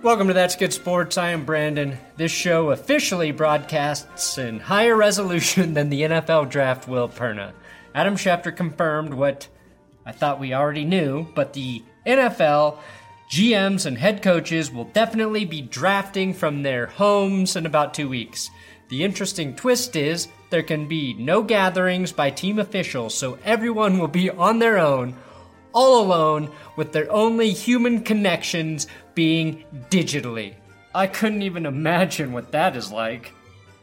Welcome to That's Good Sports. I am Brandon. This show officially broadcasts in higher resolution than the NFL draft, Will Perna. Adam Schefter confirmed what I thought we already knew, but the NFL GMs and head coaches will definitely be drafting from their homes in about 2 weeks. The interesting twist is there can be no gatherings by team officials, so everyone will be on their own, all alone, with their only human connections being digitally. I couldn't even imagine what that is like.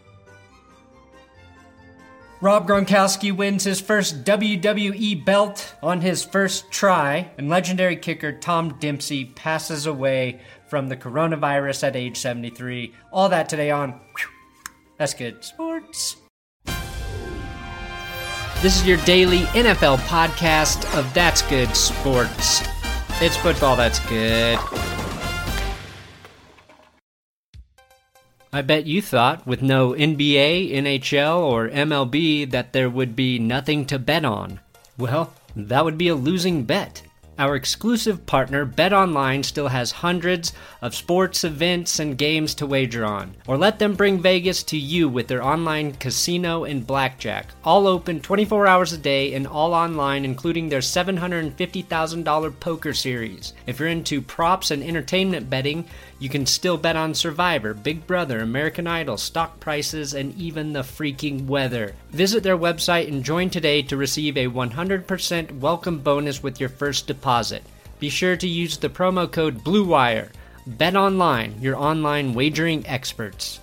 Rob Gronkowski wins his first WWE belt on his first try, and legendary kicker Tom Dempsey passes away from the coronavirus at age 73. All that today on That's Good Sports. This is your daily NFL podcast of That's Good Sports. It's football that's good. I bet you thought, with no NBA, NHL, or MLB, that there would be nothing to bet on. Well, that would be a losing bet. Our exclusive partner, BetOnline, still has hundreds of sports events and games to wager on. Or let them bring Vegas to you with their online casino and blackjack. All open 24 hours a day and all online, including their $750,000 poker series. If you're into props and entertainment betting, you can still bet on Survivor, Big Brother, American Idol, stock prices, and even the freaking weather. Visit their website and join today to receive a 100% welcome bonus with your first deposit. Be sure to use the promo code BLUEWIRE. BetOnline, your online wagering experts.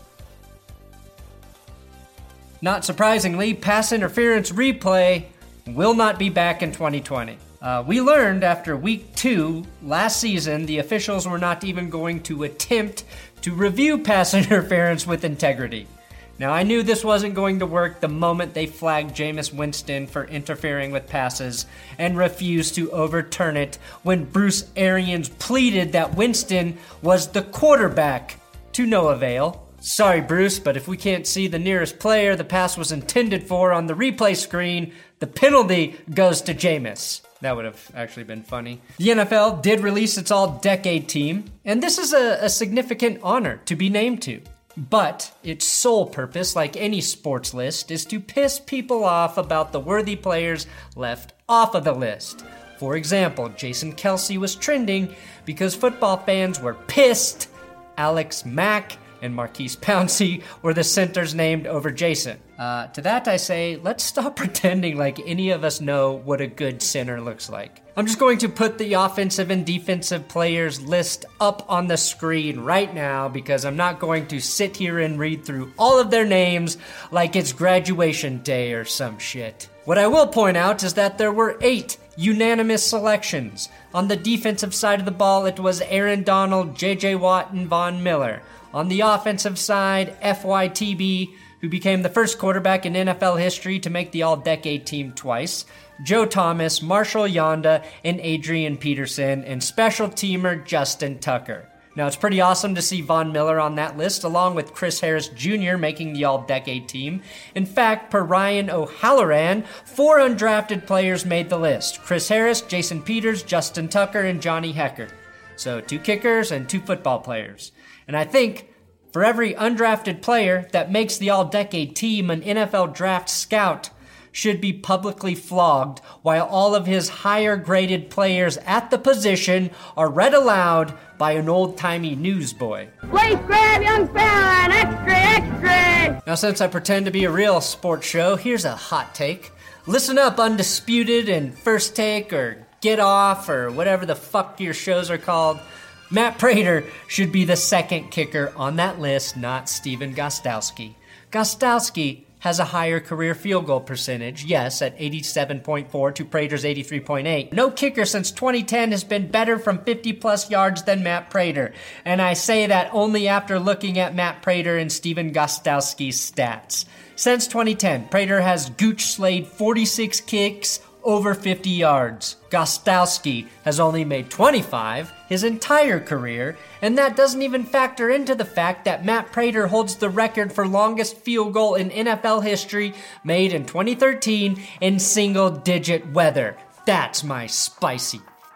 Not surprisingly, pass interference replay will not be back in 2020. We learned after week 2 last season the officials were not even going to attempt to review pass interference with integrity. Now, I knew this wasn't going to work the moment they flagged Jameis Winston for interfering with passes and refused to overturn it when Bruce Arians pleaded that Winston was the quarterback, to no avail. Sorry, Bruce, but if we can't see the nearest player the pass was intended for on the replay screen, the penalty goes to Jameis. That would have actually been funny. The NFL did release its all-decade team, and this is a significant honor to be named to. But its sole purpose, like any sports list, is to piss people off about the worthy players left off of the list. For example, Jason Kelce was trending because football fans were pissed Alex Mack and Marquise Pouncey were the centers named over Jason. To that I say, let's stop pretending like any of us know what a good center looks like. I'm just going to put the offensive and defensive players list up on the screen right now because I'm not going to sit here and read through all of their names like it's graduation day or some shit. What I will point out is that there were 8 unanimous selections. On the defensive side of the ball, it was Aaron Donald, J.J. Watt, and Von Miller. On the offensive side, FYTB, who became the first quarterback in NFL history to make the all-decade team twice, Joe Thomas, Marshall Yonda, and Adrian Peterson, and special teamer Justin Tucker. Now, it's pretty awesome to see Von Miller on that list, along with Chris Harris Jr. making the all-decade team. In fact, per Ryan O'Halloran, 4 undrafted players made the list. Chris Harris, Jason Peters, Justin Tucker, and Johnny Hekker. So 2 kickers and 2 football players. And I think for every undrafted player that makes the all-decade team, an NFL draft scout should be publicly flogged while all of his higher-graded players at the position are read aloud by an old-timey newsboy. Please grab young fella, extra, extra! Now, since I pretend to be a real sports show, here's a hot take. Listen up, Undisputed and First Take or Get Off or whatever the fuck your shows are called. Matt Prater should be the second kicker on that list, not Stephen Gostkowski. Gostkowski has a higher career field goal percentage, yes, at 87.4 to Prater's 83.8. No kicker since 2010 has been better from 50-plus yards than Matt Prater, and I say that only after looking at Matt Prater and Stephen Gostkowski's stats. Since 2010, Prater has gooch slayed 46 kicks over 50 yards. Gostkowski has only made 25 his entire career, and that doesn't even factor into the fact that Matt Prater holds the record for longest field goal in NFL history, made in 2013 in single-digit weather. That's my spicy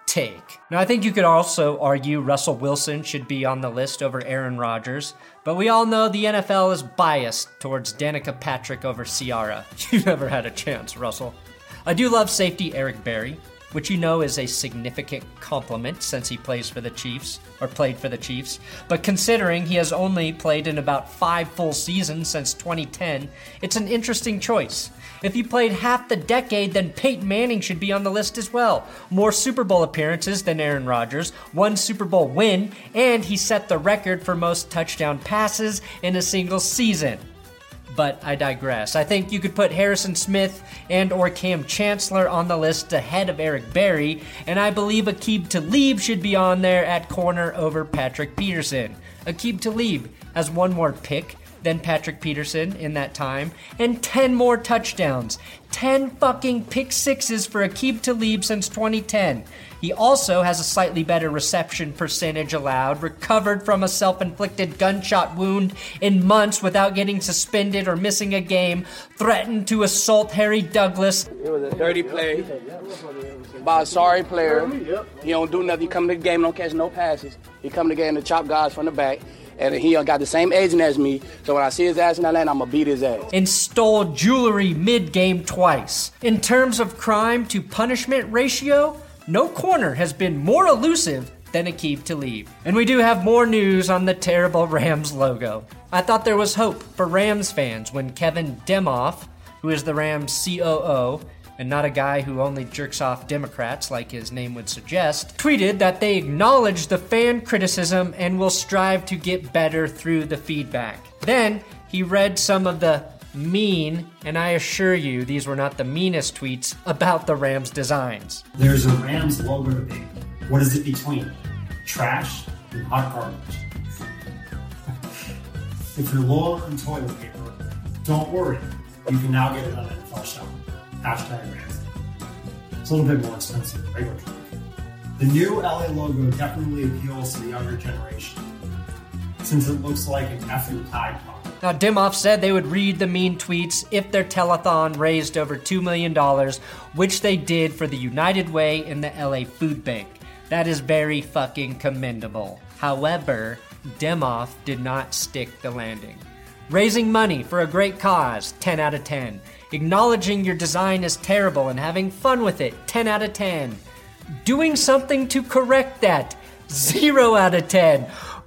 take. Now, I think you could also argue Russell Wilson should be on the list over Aaron Rodgers, but we all know the NFL is biased towards Danica Patrick over Ciara. You never had a chance, Russell. I do love safety Eric Berry, which you know is a significant compliment since he played for the Chiefs, but considering he has only played in about 5 full seasons since 2010, it's an interesting choice. If he played half the decade, then Peyton Manning should be on the list as well. More Super Bowl appearances than Aaron Rodgers, 1 Super Bowl win, and he set the record for most touchdown passes in a single season. But I digress. I think you could put Harrison Smith and or Cam Chancellor on the list ahead of Eric Berry, and I believe Aqib Talib should be on there at corner over Patrick Peterson. Aqib Talib has 1 more pick than Patrick Peterson in that time, and 10 more touchdowns. 10 fucking pick sixes for Aqib Talib since 2010. He also has a slightly better reception percentage allowed, recovered from a self-inflicted gunshot wound in months without getting suspended or missing a game, threatened to assault Harry Douglas. It was a dirty play by a sorry player. He don't do nothing. He come to the game, don't catch no passes. He come to the game to chop guys from the back. And he got the same agent as me, so when I see his ass in that lane, I'm gonna beat his ass. And stole jewelry mid-game twice. In terms of crime to punishment ratio, no corner has been more elusive than Aqib Talib. And we do have more news on the terrible Rams logo. I thought there was hope for Rams fans when Kevin Demoff, who is the Rams COO, and not a guy who only jerks off Democrats like his name would suggest, tweeted that they acknowledge the fan criticism and will strive to get better through the feedback. Then he read some of the mean, and I assure you these were not the meanest tweets about the Rams designs. There's a Rams logo debate. What is it between? Trash and hot garbage. If you're low on toilet paper, don't worry. You can now get it on NFL Shop. #Rams. It's a little bit more expensive than regular toilet paper. The new LA logo definitely appeals to the younger generation, since it looks like an effing Tide Pod. Now, Demoff said they would read the mean tweets if their telethon raised over $2 million, which they did for the United Way and the LA Food Bank. That is very fucking commendable. However, Demoff did not stick the landing. Raising money for a great cause, 10 out of 10. Acknowledging your design is terrible and having fun with it, 10 out of 10. Doing something to correct that, 0 out of 10.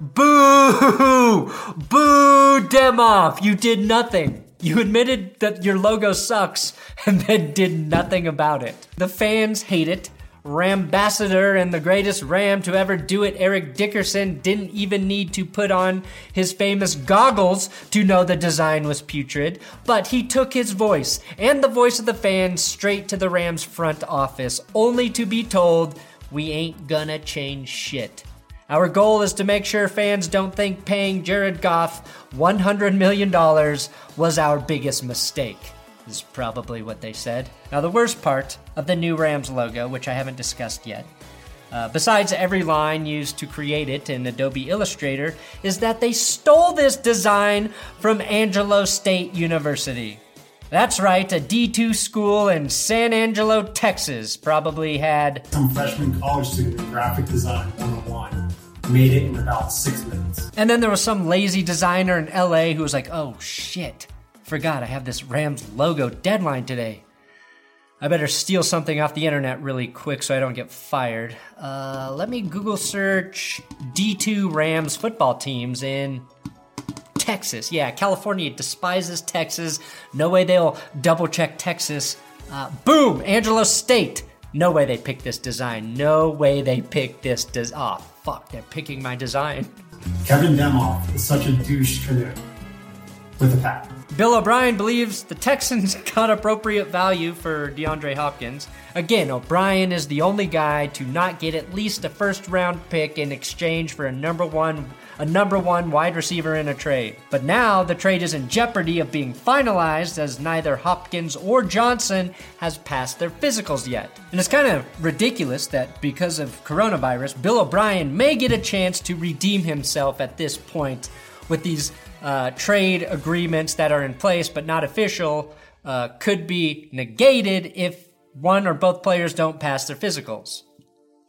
Boo! Boo, Demoff! You did nothing. You admitted that your logo sucks and then did nothing about it. The fans hate it. Rambassador and the greatest Ram to ever do it, Eric Dickerson, didn't even need to put on his famous goggles to know the design was putrid, but he took his voice and the voice of the fans straight to the Rams front office, only to be told, we ain't gonna change shit. Our goal is to make sure fans don't think paying Jared Goff $100 million was our biggest mistake. Is probably what they said. Now, the worst part of the new Rams logo, which I haven't discussed yet, besides every line used to create it in Adobe Illustrator, is that they stole this design from Angelo State University. That's right, a D2 school in San Angelo, Texas, probably had some freshman college student in graphic design 101 made it in about 6 minutes. And then there was some lazy designer in LA who was like, oh shit, forgot I have this Rams logo deadline today. I better steal something off the internet really quick so I don't get fired. Let me Google search D2 Rams football teams in Texas. Yeah, California despises Texas. No way they'll double check Texas. Boom, Angelo State. No way they picked this design. No way they picked this design. Oh, fuck, they're picking my design. Kevin Demoff is such a douche canoe with a pack. Bill O'Brien believes the Texans got appropriate value for DeAndre Hopkins. Again, O'Brien is the only guy to not get at least a first-round pick in exchange for a number one wide receiver in a trade. But now the trade is in jeopardy of being finalized as neither Hopkins or Johnson has passed their physicals yet. And it's kind of ridiculous that because of coronavirus, Bill O'Brien may get a chance to redeem himself at this point with these trade agreements that are in place but not official could be negated if one or both players don't pass their physicals.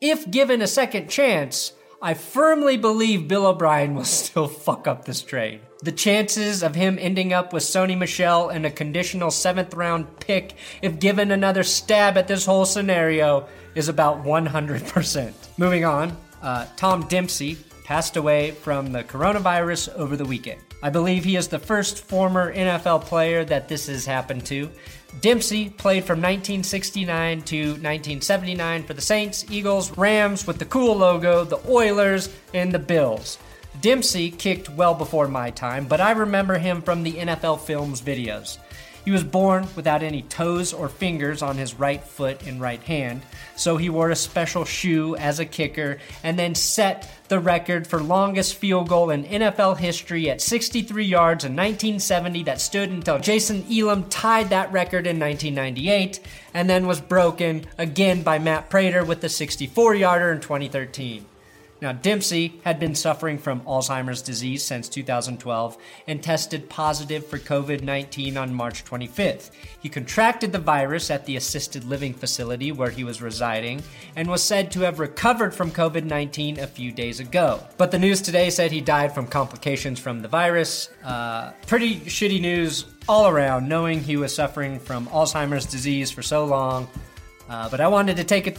if given a second chance, I firmly believe Bill O'Brien will still fuck up this trade. The chances of him ending up with Sony Michel and a conditional 7th round pick if given another stab at this whole scenario is about 100%. Moving on, Tom Dempsey passed away from the coronavirus over the weekend. I believe he is the first former NFL player that this has happened to. Dempsey played from 1969 to 1979 for the Saints, Eagles, Rams with the cool logo, the Oilers, and the Bills. Dempsey kicked well before my time, but I remember him from the NFL Films videos. He was born without any toes or fingers on his right foot and right hand, so he wore a special shoe as a kicker and then set the record for longest field goal in NFL history at 63 yards in 1970 that stood until Jason Elam tied that record in 1998 and then was broken again by Matt Prater with the 64-yarder in 2013. Now, Dempsey had been suffering from Alzheimer's disease since 2012 and tested positive for COVID-19 on March 25th. He contracted the virus at the assisted living facility where he was residing and was said to have recovered from COVID-19 a few days ago. But the news today said he died from complications from the virus. Pretty shitty news all around, knowing he was suffering from Alzheimer's disease for so long. But I wanted to take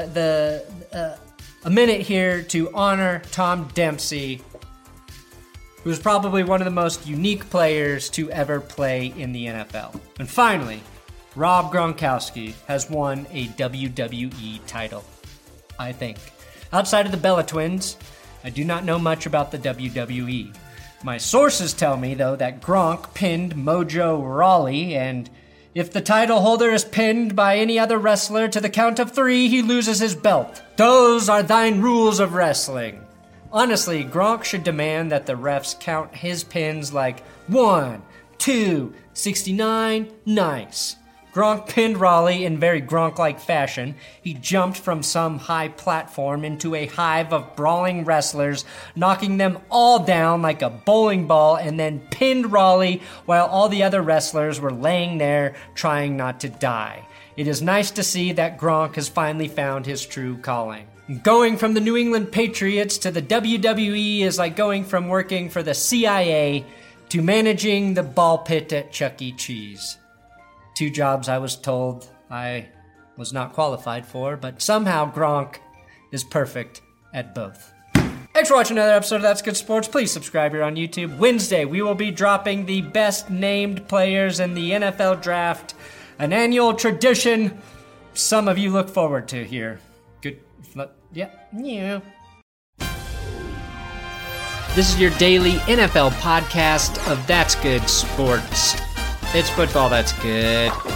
a minute here to honor Tom Dempsey, who's probably one of the most unique players to ever play in the NFL. And finally, Rob Gronkowski has won a WWE title, I think. Outside of the Bella Twins, I do not know much about the WWE. My sources tell me, though, that Gronk pinned Mojo Rawley, and if the title holder is pinned by any other wrestler to the count of 3, he loses his belt. Those are thine rules of wrestling. Honestly, Gronk should demand that the refs count his pins like 1, 2, 69, nice. Gronk pinned Rawley in very Gronk-like fashion. He jumped from some high platform into a hive of brawling wrestlers, knocking them all down like a bowling ball, and then pinned Rawley while all the other wrestlers were laying there trying not to die. It is nice to see that Gronk has finally found his true calling. Going from the New England Patriots to the WWE is like going from working for the CIA to managing the ball pit at Chuck E. Cheese. 2 jobs I was told I was not qualified for, but somehow Gronk is perfect at both. Thanks for watching another episode of That's Good Sports. Please subscribe here on YouTube. Wednesday, we will be dropping the best named players in the NFL draft, an annual tradition some of you look forward to here. Good, yeah. This is your daily NFL podcast of That's Good Sports. It's football that's good.